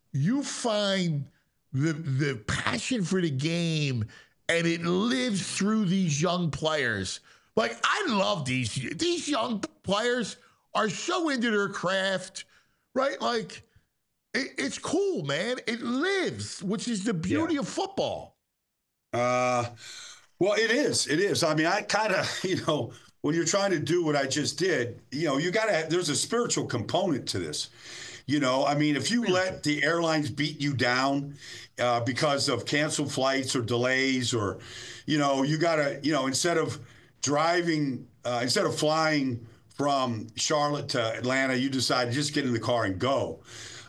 you find the passion for the game, and it lives through these young players. Like, I love these young players are so into their craft, right? Like, it's cool, man. It lives, which is the Yeah. beauty of football. Well, it is. It is. I mean, I kind of, when you're trying to do what I just did, you got to, there's a spiritual component to this. I mean, if you let the airlines beat you down because of canceled flights or delays, or, you got to, instead of flying from Charlotte to Atlanta, you decide to just get in the car and go.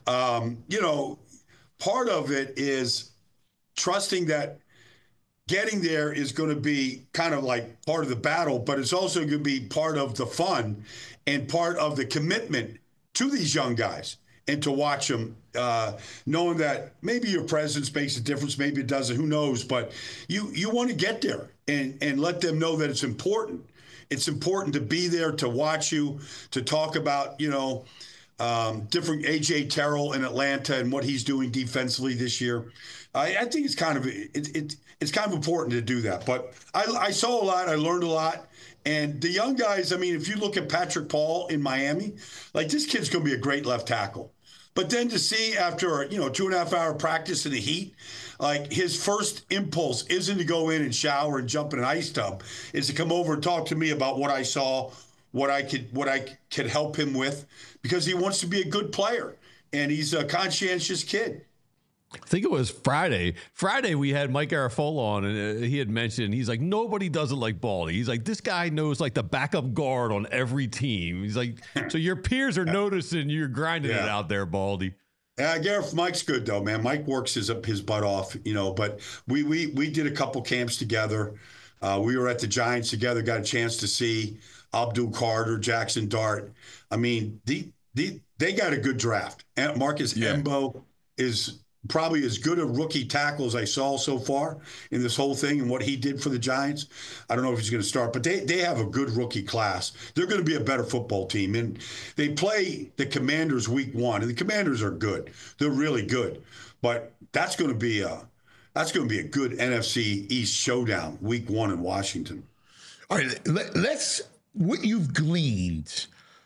Part of it is trusting that getting there is going to be kind of like part of the battle, but it's also going to be part of the fun and part of the commitment to these young guys, and to watch them, knowing that maybe your presence makes a difference, maybe it doesn't, who knows, but you want to get there and let them know that it's important. It's important to be there, to watch you, to talk about, different AJ Terrell in Atlanta and what he's doing defensively this year. I think it's kind of important to do that. But I saw a lot. I learned a lot. And the young guys, I mean, if you look at Patrick Paul in Miami, like, this kid's going to be a great left tackle. But then to see after, 2.5 hour practice in the heat, like, his first impulse isn't to go in and shower and jump in an ice tub, is to come over and talk to me about what I saw, what I could help him with, because he wants to be a good player and he's a conscientious kid. I think it was Friday. Friday, we had Mike Garafolo on, and he had mentioned, he's like, nobody does it like Baldy. He's like, this guy knows, like, the backup guard on every team. He's like, so your peers are noticing you're grinding it out there, Baldy. Yeah, Gareth, Mike's good though, man. Mike works his butt off, But we did a couple camps together. We were at the Giants together. Got a chance to see Abdul Carter, Jackson Dart. I mean, they got a good draft. And Marcus Embo is probably as good a rookie tackle as I saw so far in this whole thing, and what he did for the Giants. I don't know if he's going to start, but they have a good rookie class. They're going to be a better football team. And they play the Commanders week 1, and the Commanders are good. They're really good. But that's going to be a good NFC East showdown week 1 in Washington. All right, let's what you've gleaned.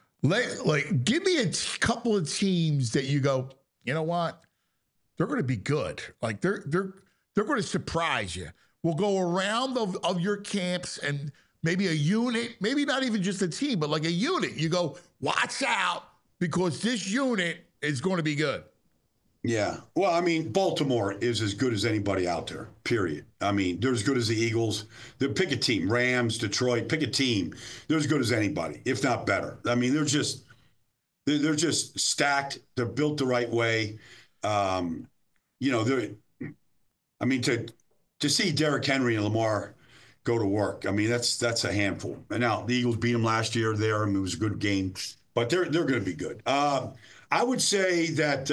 Give me a couple of teams that you go, you know what? They're going to be good. Like, they're going to surprise you. We'll go around of your camps, and maybe a unit, maybe not even just a team, but like a unit. You go, watch out, because this unit is going to be good. Yeah. Well, I mean, Baltimore is as good as anybody out there, period. I mean, they're as good as the Eagles. Pick a team. Rams, Detroit, pick a team. They're as good as anybody, if not better. I mean, they're just stacked. They're built the right way. To see Derrick Henry and Lamar go to work, I mean, that's a handful. And now the Eagles beat them last year there. I mean, it was a good game, but they're going to be good. I would say that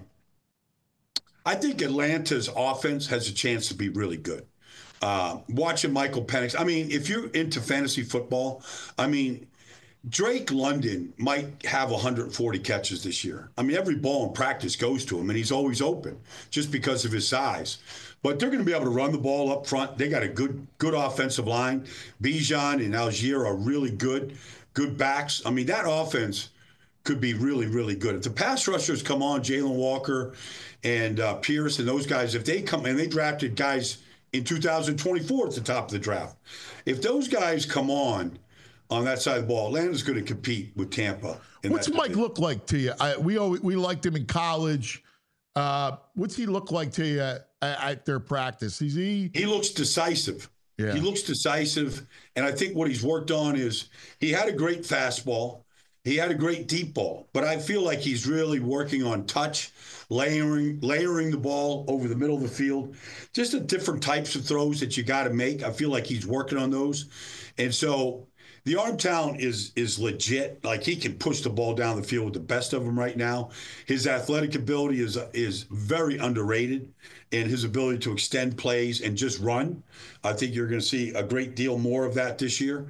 I think Atlanta's offense has a chance to be really good. Watching Michael Penix, I mean, if you're into fantasy football, I mean, Drake London might have 140 catches this year. I mean, every ball in practice goes to him, and he's always open just because of his size. But they're going to be able to run the ball up front. They got a good offensive line. Bijan and Algier are really good backs. I mean, that offense could be really, really good. If the pass rushers come on, Jalen Walker and Pierce and those guys, if they come, and they drafted guys in 2024 at the top of the draft. If those guys come on that side of the ball, Atlanta's going to compete with Tampa. What's Mike look like to you? We liked him in college. What's he look like to you at their practice? He looks decisive. Yeah. He looks decisive, and I think what he's worked on is he had a great fastball. He had a great deep ball, but I feel like he's really working on touch, layering the ball over the middle of the field, just the different types of throws that you got to make. I feel like he's working on those. And so the arm talent is legit. Like, he can push the ball down the field with the best of them right now. His athletic ability is very underrated, and his ability to extend plays and just run. I think you're going to see a great deal more of that this year.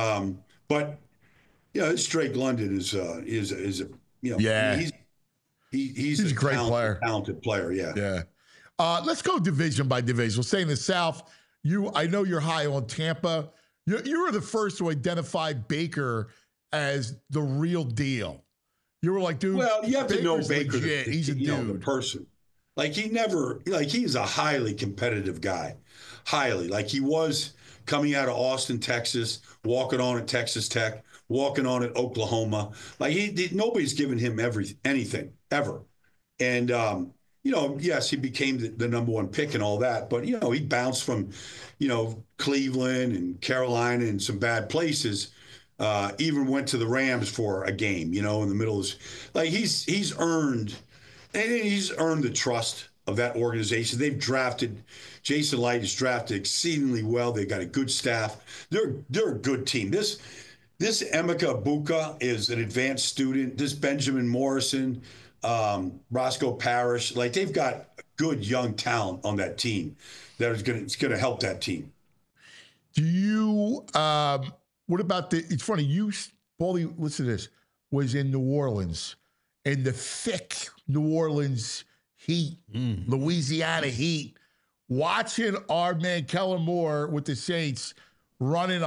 But this Drake London is he's a great player. Talented player, yeah. Yeah. Let's go division by division. We'll stay in the South. I know you're high on Tampa. You were the first to identify Baker as the real deal. You were like, dude. Well, you have to know Baker's Baker. legit. He's a dude. The person. Like he's a highly competitive guy. Highly. Like he was coming out of Austin, Texas, walking on at Texas Tech, walking on at Oklahoma. Like nobody's given him anything ever. And, yes, he became the number one pick and all that. But, he bounced from, Cleveland and Carolina and some bad places. Even went to the Rams for a game, in the middle of like he's earned the trust of that organization. They've drafted Jason Light is drafted exceedingly well. They've got a good staff. They're a good team. This Emeka Buka is an advanced student. This Benjamin Morrison, Roscoe Parrish, like they've got good young talent on that team that is going to help that team. Do you? What about it's funny, Paulie, listen to this, was in New Orleans, in the thick New Orleans heat, Louisiana heat, watching our man Kellen Moore with the Saints running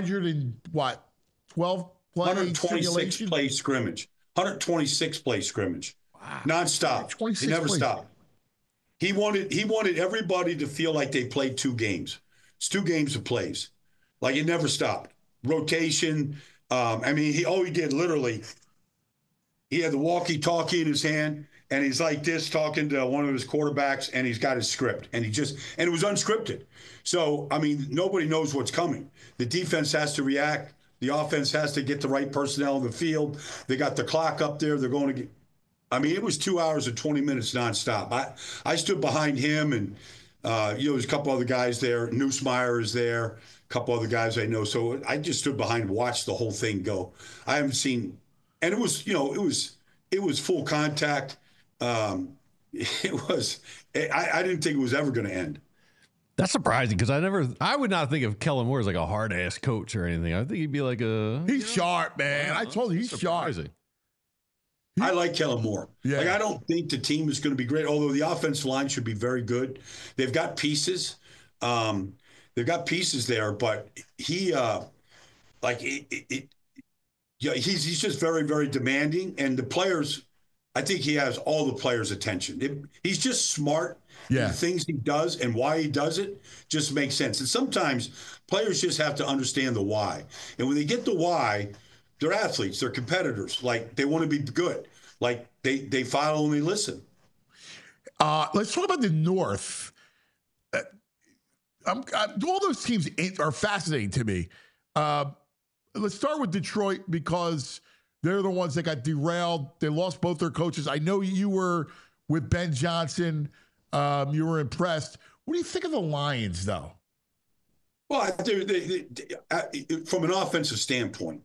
126 play scrimmage. 126 play scrimmage. Wow. Nonstop. He never stopped. He wanted everybody to feel like they played 2 games. It's 2 games of plays. Like it never stopped. Rotation. He did literally, he had the walkie-talkie in his hand, and he's like this talking to one of his quarterbacks, and he's got his script, and it was unscripted. So, nobody knows what's coming. The defense has to react. The offense has to get the right personnel on the field. They got the clock up there. They're going to get, it was 2 hours and 20 minutes nonstop. I stood behind him, and, there's a couple other guys there. Neusmeyer is there. Couple other guys I know. So I just stood behind and watched the whole thing go. I haven't seen, and it was full contact. I didn't think it was ever going to end. That's surprising because I would not think of Kellen Moore as like a hard ass coach or anything. I think he'd be like he's sharp, man. I told you he's sharp. I like Kellen Moore. Yeah. Like I don't think the team is going to be great, although the offensive line should be very good. They've got pieces. They've got pieces there, but he's just very, very demanding. And the players, I think he has all the players' attention. He's just smart. Yeah. The things he does and why he does it just makes sense. And sometimes players just have to understand the why. And when they get the why, they're athletes, they're competitors. Like they want to be good. Like they follow and they listen. Let's talk about the North. All those teams are fascinating to me. Let's start with Detroit because they're the ones that got derailed. They lost both their coaches. I know you were with Ben Johnson. You were impressed. What do you think of the Lions, though? Well, from an offensive standpoint,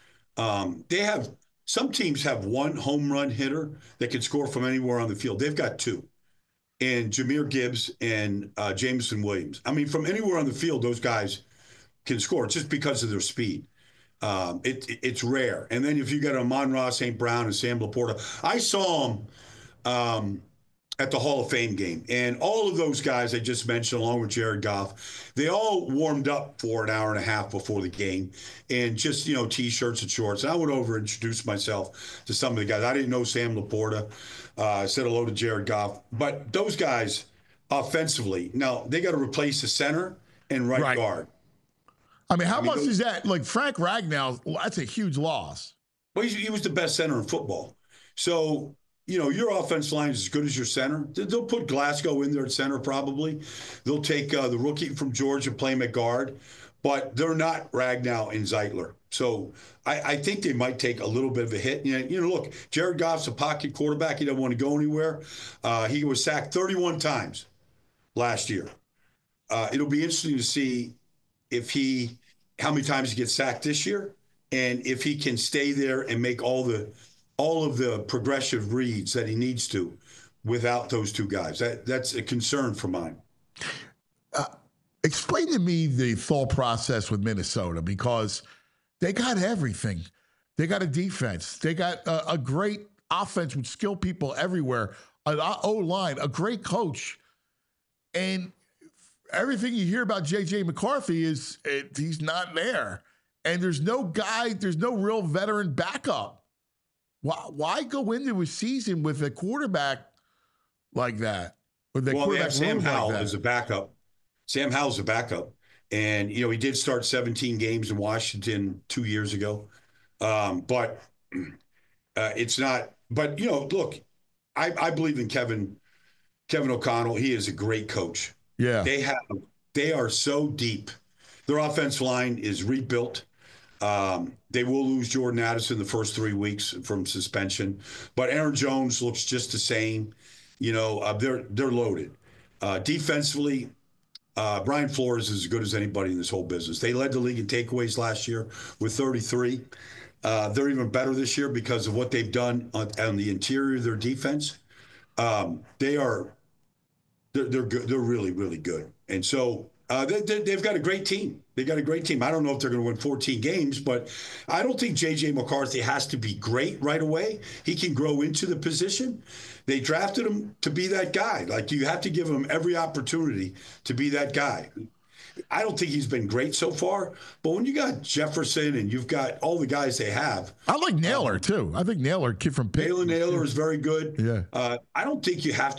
some teams have one home run hitter that can score from anywhere on the field. They've got 2. And Jahmyr Gibbs and Jameson Williams. From anywhere on the field, those guys can score just because of their speed. It's rare. And then if you got Amon-Ra St. Brown and Sam Laporta, I saw them at the Hall of Fame game. And all of those guys I just mentioned, along with Jared Goff, they all warmed up for an hour and a half before the game and just, T-shirts and shorts. And I went over and introduced myself to some of the guys. I didn't know Sam Laporta. I said hello to Jared Goff. But those guys, offensively, now they got to replace the center and right guard. How much is that? Like Frank Ragnow, that's a huge loss. Well, he was the best center in football. So, your offense line is as good as your center. They'll put Glasgow in there at center probably. They'll take the rookie from Georgia, play him at guard. But they're not Ragnow and Zeitler. So I think they might take a little bit of a hit. Look, Jared Goff's a pocket quarterback. He doesn't want to go anywhere. He was sacked 31 times last year. It'll be interesting to see how many times he gets sacked this year, and if he can stay there and make all of the progressive reads that he needs to without those 2 guys. That's a concern for mine. Explain to me the thought process with Minnesota, because they got everything. They got a defense. They got a great offense with skilled people everywhere, an O-line, a great coach. And everything you hear about J.J. McCarthy is he's not there. And there's no real veteran backup. Why go into a season with a quarterback like that? They have Sam Howell as a backup. Sam Howell's a backup. And, he did start 17 games in Washington 2 years ago. But it's not. But, look, I believe in Kevin O'Connell. He is a great coach. Yeah. They are so deep. Their offensive line is rebuilt. They will lose Jordan Addison the first 3 weeks from suspension, but Aaron Jones looks just the same. They're loaded. Defensively, Brian Flores is as good as anybody in this whole business. They led the league in takeaways last year with 33. They're even better this year because of what they've done on the interior of their defense. They're good. They're really, really good. And so they've got a great team. They've got a great team. I don't know if they're going to win 14 games, but I don't think J.J. McCarthy has to be great right away. He can grow into the position. They drafted him to be that guy. Like, you have to give him every opportunity to be that guy. I don't think he's been great so far, but when you got Jefferson and you've got all the guys they have. I like Naylor, too. I think Naylor, kid from Pitt. Naylor is very good. Yeah. I don't think he has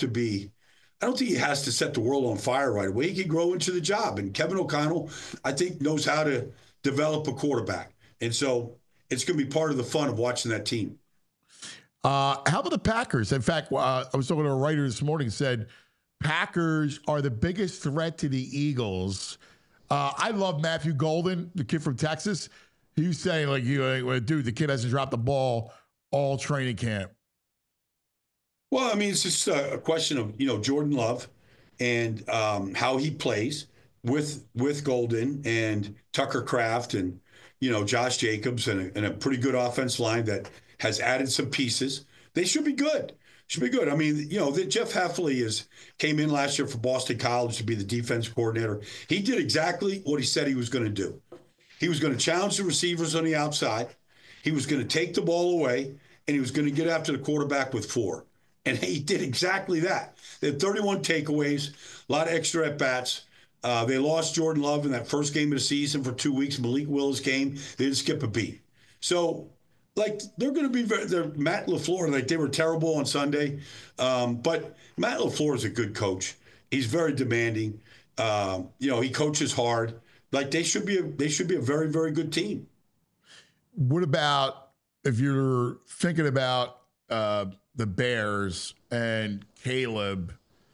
to set the world on fire right away. He can grow into the job. And Kevin O'Connell, I think, knows how to develop a quarterback. And so it's going to be part of the fun of watching that team. How about the Packers? In fact, I was talking to a writer this morning, said Packers are the biggest threat to the Eagles. I love Matthew Golden, the kid from Texas. He was saying, dude, the kid hasn't dropped the ball all training camp. Well, I mean, it's just a question of, Jordan Love and how he plays with Golden and Tucker Kraft and, Josh Jacobs and a pretty good offense line that has added some pieces. They should be good. I mean, Jeff Hafley came in last year for Boston College to be the defense coordinator. He did exactly what he said he was going to do. He was going to challenge the receivers on the outside. He was going to take the ball away, and he was going to get after the quarterback with 4. And he did exactly that. They had 31 takeaways, a lot of extra at-bats. They lost Jordan Love in that first game of the season for 2 weeks. Malik Willis came. They didn't skip a beat. So, they're going to be they're Matt LaFleur. They were terrible on Sunday. But Matt LaFleur is a good coach. He's very demanding. He coaches hard. They should be a very, very good team. What about if you're thinking about the Bears and Caleb?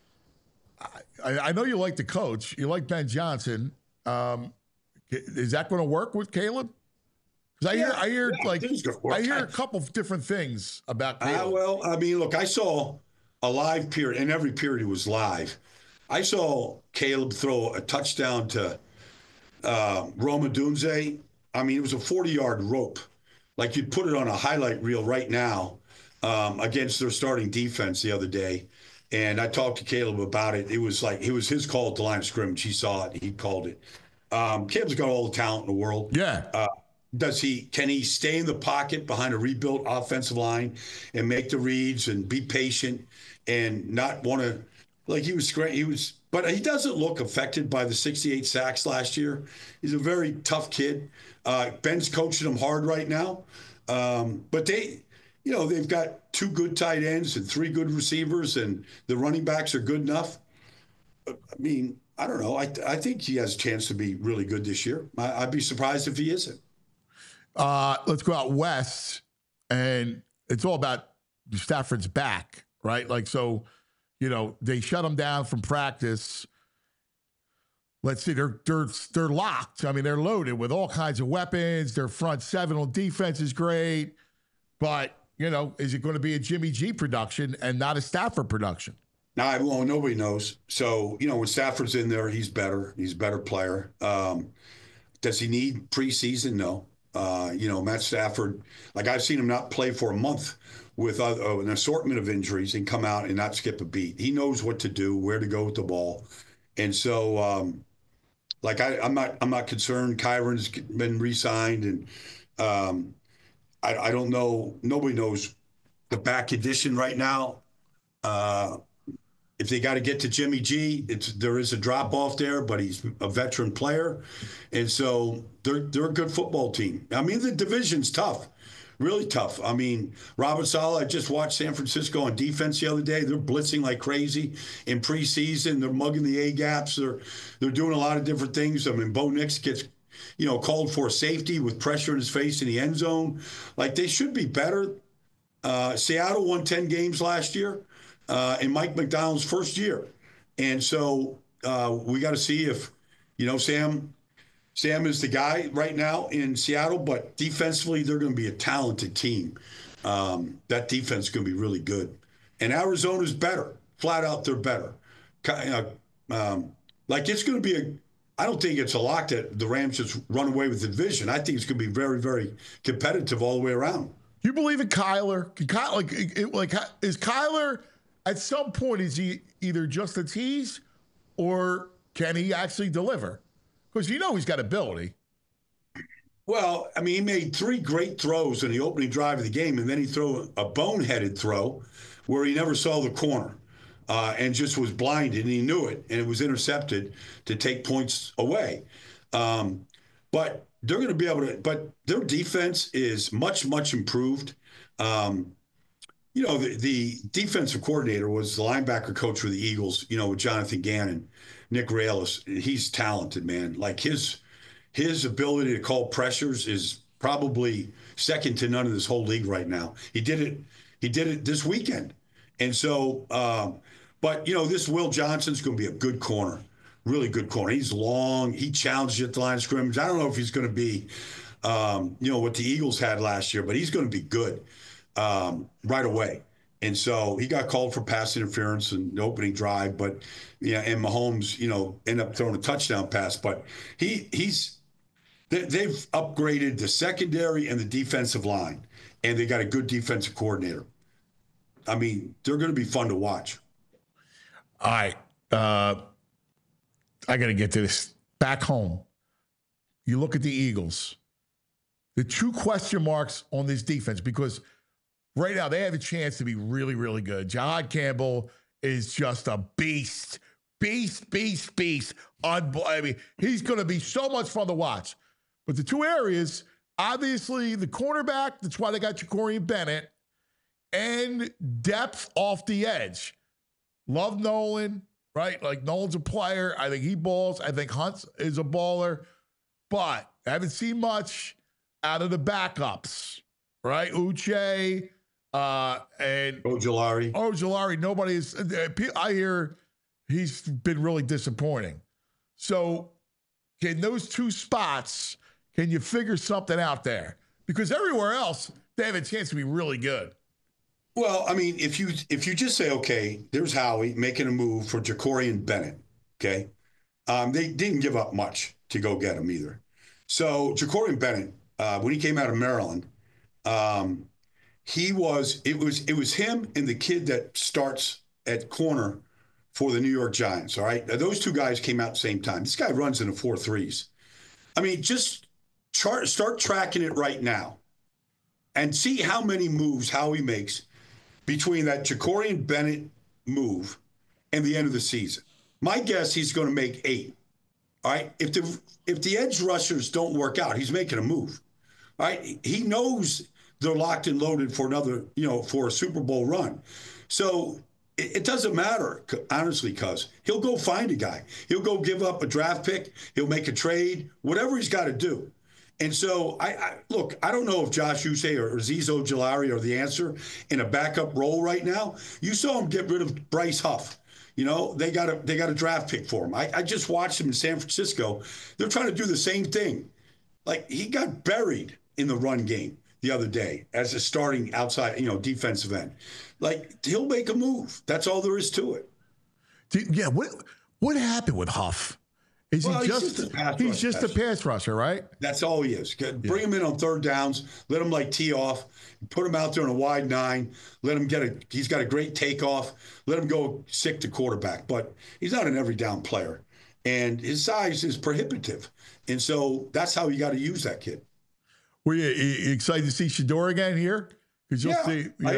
I know you like the coach. You like Ben Johnson. Is that going to work with Caleb? Because I hear a couple of different things about Caleb. Well, I mean, look, I saw a live period, and every period it was live. I saw Caleb throw a touchdown to Roma Dunze. I mean, it was a 40-yard rope. You'd put it on a highlight reel right now against their starting defense the other day. And I talked to Caleb about it. It was his call at the line of scrimmage. He saw it. He called it. Caleb's got all the talent in the world. Yeah. Can he stay in the pocket behind a rebuilt offensive line and make the reads and be patient and not want to, but he doesn't look affected by the 68 sacks last year. He's a very tough kid. Ben's coaching him hard right now. But they've got 2 good tight ends and 3 good receivers, and the running backs are good enough. I mean, I don't know. I think he has a chance to be really good this year. I'd be surprised if he isn't. Let's go out west, and it's all about Stafford's back, right? They shut him down from practice. Let's see, they're locked. I mean, they're loaded with all kinds of weapons. Their front 7 on defense is great, but is it going to be a Jimmy G production and not a Stafford production? Well, nobody knows. So when Stafford's in there, he's better. He's a better player. Does he need preseason? No. Matt Stafford, I've seen him not play for a month with an assortment of injuries and come out and not skip a beat. He knows what to do, where to go with the ball. And so, I'm not concerned. Kyron's been re-signed, and I don't know. Nobody knows the back condition right now. If they got to get to Jimmy G, there is a drop off there, but he's a veteran player, and so they're a good football team. I mean, the division's tough, really tough. I mean, Robert Saleh, I just watched San Francisco on defense the other day. They're blitzing like crazy in preseason. They're mugging the A gaps. They're doing a lot of different things. I mean, Bo Nix gets called for safety with pressure in his face in the end zone. Like, they should be better. Seattle won 10 games last year. In Mike McDonald's first year. And so we got to see if, Sam is the guy right now in Seattle, but defensively, they're going to be a talented team. That defense is going to be really good. And Arizona's better. Flat out, they're better. It's going to be I don't think it's a lock that the Rams just run away with the division. I think it's going to be very, very competitive all the way around. You believe in Kyler? Is Kyler... At some point, is he either just a tease or can he actually deliver? Because he's got ability. Well, I mean, he made 3 great throws in the opening drive of the game, and then he threw a boneheaded throw where he never saw the corner and just was blinded, and he knew it, and it was intercepted to take points away. But they're going to be able to – but their defense is much, much improved. The defensive coordinator was the linebacker coach for the Eagles, with Jonathan Gannon, Nick Rallis. He's talented, man. Like his ability to call pressures is probably second to none in this whole league right now. He did it this weekend. And so, but this Will Johnson's going to be a good corner, really good corner. He's long. He challenged you at the line of scrimmage. I don't know if he's going to be, what the Eagles had last year, but he's going to be good. Right away. And so he got called for pass interference in the opening drive, but and Mahomes, ended up throwing a touchdown pass. But they've upgraded the secondary and the defensive line, and they got a good defensive coordinator. I mean, they're going to be fun to watch. All right. I got to get to this. Back home, you look at the Eagles. The 2 question marks on this defense, because right now, they have a chance to be really, really good. Jahad Campbell is just a beast. Beast. I mean, he's going to be so much fun to watch. But the 2 areas, obviously, the cornerback, that's why they got Jacorian Bennett, and depth off the edge. Love Nolan, right? Like, Nolan's a player. I think he balls. I think Hunt is a baller. But I haven't seen much out of the backups, right? Uche, and Ojulari. Nobody is. I hear he's been really disappointing. So, can those 2 spots? Can you figure something out there? Because everywhere else, they have a chance to be really good. Well, I mean, if you just say, okay, there's Howie making a move for Jacorian Bennett. Okay, they didn't give up much to go get him either. So Jacorian Bennett, when he came out of Maryland. It was him and the kid that starts at corner for the New York Giants. All right. Now, those 2 guys came out at the same time. This guy runs in the 4.3s. I mean, just start tracking it right now and see how many moves Howie makes between that Jacorian Bennett move and the end of the season. My guess, he's going to make 8. All right. If the edge rushers don't work out, he's making a move. All right. He knows they're locked and loaded for another, for a Super Bowl run. So it doesn't matter, honestly, cuz he'll go find a guy. He'll go give up a draft pick. He'll make a trade, whatever he's got to do. And so, I don't know if Josh Uche or Azeez Ojulari are the answer in a backup role right now. You saw him get rid of Bryce Huff. They got a draft pick for him. I just watched him in San Francisco. They're trying to do the same thing. Like, he got buried in the run game the other day as a starting outside, defensive end. Like, he'll make a move. That's all there is to it. Yeah, what happened with Huff? He's just a pass rusher, right? That's all he is. Bring him in on 3rd downs, let him tee off, put him out there in a wide 9, let him he's got a great takeoff, let him go sick to quarterback. But he's not an every down player. And his size is prohibitive. And so that's how you got to use that kid. Were you excited to see Shedeur again here? Because you'll see. I am.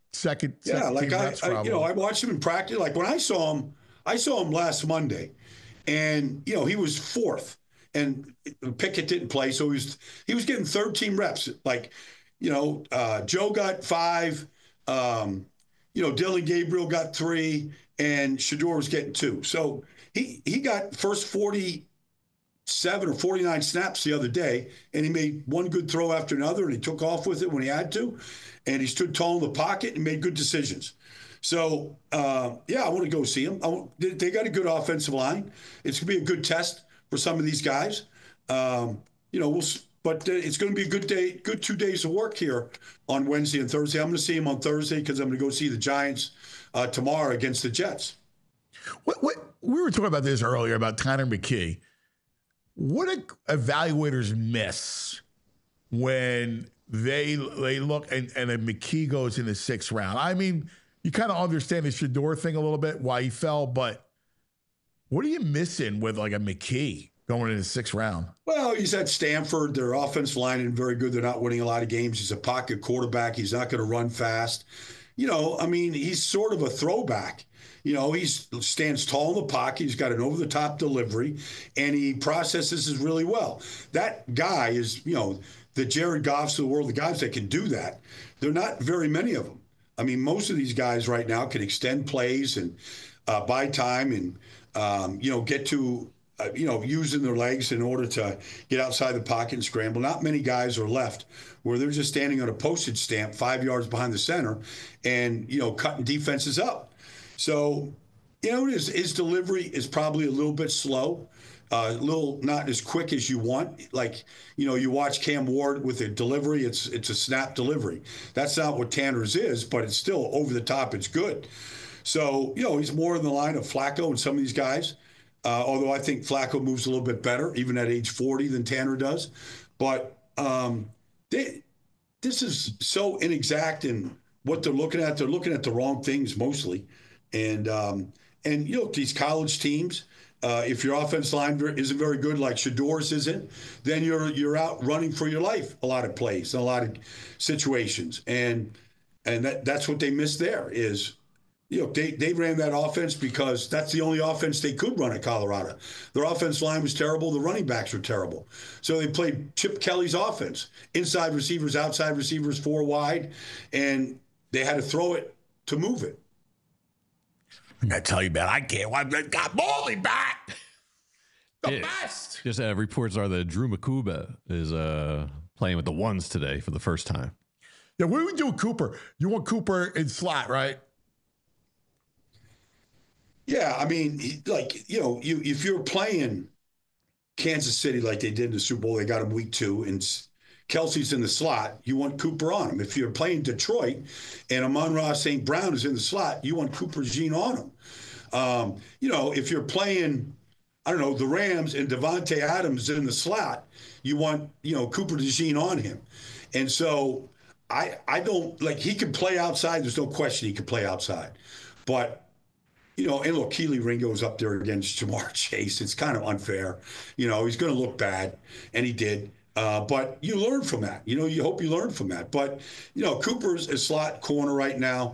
second like team reps probably. I watched him in practice. Like when I saw him last Monday, and he was fourth, and Pickett didn't play, so he was getting third team reps. Like, Joe got 5, Dylan Gabriel got 3, and Shedeur was getting 2. So he got first 47 or 49 snaps the other day, and he made one good throw after another, and he took off with it when he had to, and he stood tall in the pocket and made good decisions. So, I want to go see him. They got a good offensive line. It's going to be a good test for some of these guys. But it's going to be a good 2 days of work here on Wednesday and Thursday. I'm going to see him on Thursday because I'm going to go see the Giants tomorrow against the Jets. What we were talking about this earlier about Tanner McKee. What do evaluators miss when they look and then McKee goes in the 6th round? I mean, you kind of understand the Shedeur thing a little bit, why he fell, but what are you missing with like a McKee going in the 6th round? Well, he's at Stanford. Their offensive line isn't very good. They're not winning a lot of games. He's a pocket quarterback. He's not going to run fast. He's sort of a throwback. He stands tall in the pocket. He's got an over-the-top delivery, and he processes this really well. That guy is, the Jared Goffs of the world, the guys that can do that. There are not very many of them. I mean, most of these guys right now can extend plays and buy time and, get to, using their legs in order to get outside the pocket and scramble. Not many guys are left where they're just standing on a postage stamp 5 yards behind the center and, cutting defenses up. So, his delivery is probably a little bit slow. A little not as quick as you want. Like, you watch Cam Ward with a delivery, it's a snap delivery. That's not what Tanner's is, but it's still over the top. It's good. So, he's more in the line of Flacco and some of these guys. Although I think Flacco moves a little bit better, even at age 40, than Tanner does. But this is so inexact in what they're looking at. They're looking at the wrong things mostly. And these college teams, if your offense line isn't very good, like Shedeur's isn't, then you're out running for your life a lot of plays, a lot of situations, and that's what they missed there. Is they ran that offense because that's the only offense they could run at Colorado. Their offense line was terrible. The running backs were terrible, so they played Chip Kelly's offense: inside receivers, outside receivers, 4 wide, and they had to throw it to move it. I'm going to tell you, man, I can't. I got Baldy back. The best. Just reports are that Drew Makuba is playing with the ones today for the first time. Yeah, what do we do with Cooper? You want Cooper in slot, right? Yeah, I mean, if you're playing Kansas City like they did in the Super Bowl, they got him week 2, and Kelsey's in the slot, you want Cooper on him. If you're playing Detroit and Amon-Ra St. Brown is in the slot, you want Cooper Jean on him. If you're playing, the Rams and Devontae Adams in the slot, you want, Cooper DeJean on him. And so I don't, he can play outside. There's no question he can play outside. But, and look, Keely Ringo's up there against Jamar Chase. It's kind of unfair. He's going to look bad, and he did. But you learn from that. You hope you learn from that. But, Cooper's a slot corner right now.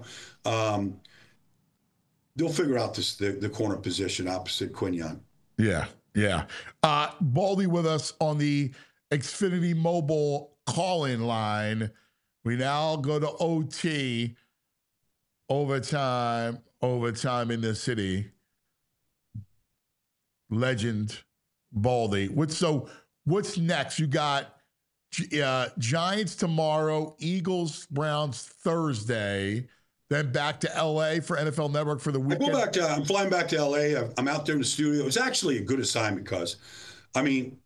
They'll figure out the corner position opposite Quinyon. Yeah. Baldy with us on the Xfinity Mobile call-in line. We now go to OT, overtime in the city. Legend Baldy. What's next? You got Giants tomorrow, Eagles, Browns Thursday, then back to L.A. for NFL Network for the weekend. I'm flying back to L.A. I'm out there in the studio. It was actually a good assignment because, I'm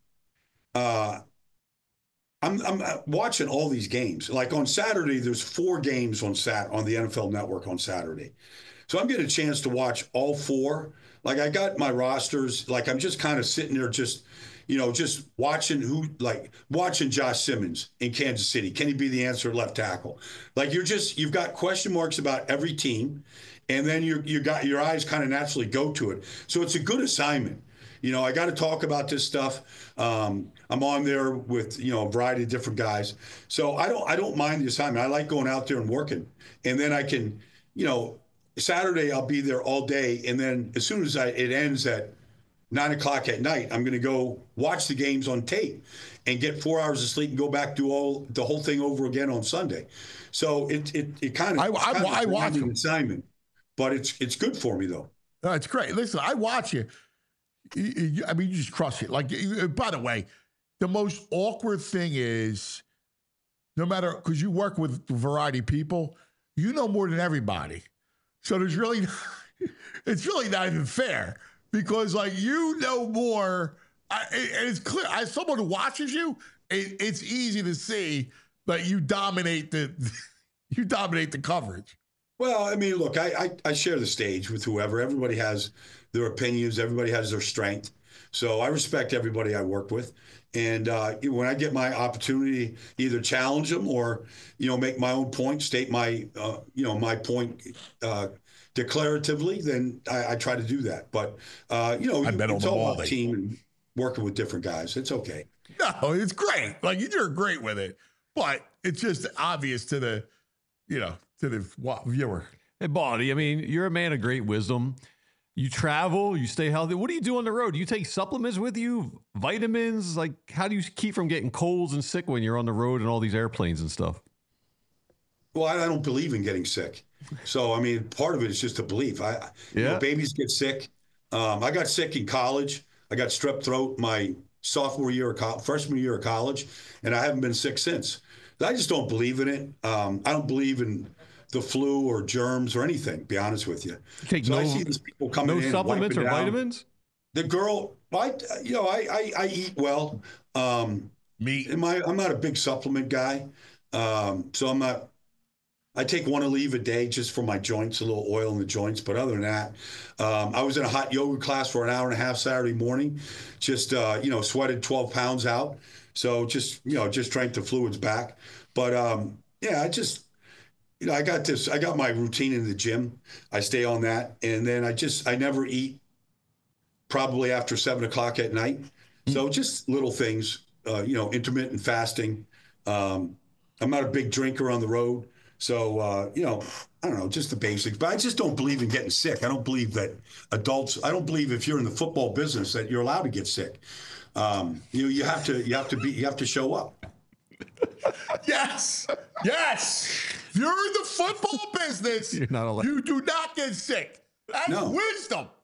watching all these games. Like on Saturday, there's 4 games on the NFL Network on Saturday. So I'm getting a chance to watch all 4. Like I got my rosters. Like I'm just kind of sitting there just watching Josh Simmons in Kansas City. Can he be the answer at left tackle? Like you've got question marks about every team, and then you got your eyes kind of naturally go to it. So it's a good assignment. I got to talk about this stuff. I'm on there with, a variety of different guys. So I don't mind the assignment. I like going out there and working. And then I can, Saturday I'll be there all day. And then as soon as it ends at 9 o'clock at night, I'm going to go watch the games on tape and get 4 hours of sleep and go back do the whole thing over again on Sunday. So it kind of I watch an assignment, but it's good for me though. No, it's great. Listen, I watch you. I mean, you just crush it. Like, by the way, the most awkward thing is, no matter, because you work with a variety of people, you know more than everybody. So it's really not even fair, because like you know more, and it's clear. As someone who watches you, it's easy to see that you dominate the coverage. Well, I mean, look, I share the stage with whoever. Everybody has their opinions. Everybody has their strength. So I respect everybody I work with. And when I get my opportunity, either challenge them or, make my own point, state my, my point declaratively, then I try to do that. But, it's all about team and working with different guys. It's okay. No, it's great. Like, you're great with it. But it's just obvious to the, to the viewer. Hey, Baldy, I mean, you're a man of great wisdom. You travel, you stay healthy. What do you do on the road? Do you take supplements with you, vitamins? Like, how do you keep from getting colds and sick when you're on the road and all these airplanes and stuff? Well, I don't believe in getting sick. So, I mean, part of it is just a belief. Babies get sick. I got sick in college. I got strep throat my freshman year of college, and I haven't been sick since. I just don't believe in it. I don't believe in the flu or germs or anything, to be honest with you. I see these people coming in. No supplements or vitamins? The girl, I eat well. Meat. I'm not a big supplement guy. So I'm not, I take one Aleve a day just for my joints, a little oil in the joints. But other than that, I was in a hot yoga class for an hour and a half Saturday morning, just, sweated 12 pounds out. So just drank the fluids back. But I just, I got my routine in the gym. I stay on that. And then I never eat probably after 7 o'clock at night. So just little things, intermittent fasting. I'm not a big drinker on the road. So, I don't know, just the basics. But I just don't believe in getting sick. I don't believe that I don't believe if you're in the football business that you're allowed to get sick. You have to show up. Yes. If you're in the football business, you're not allowed. You do not get sick. That's wisdom.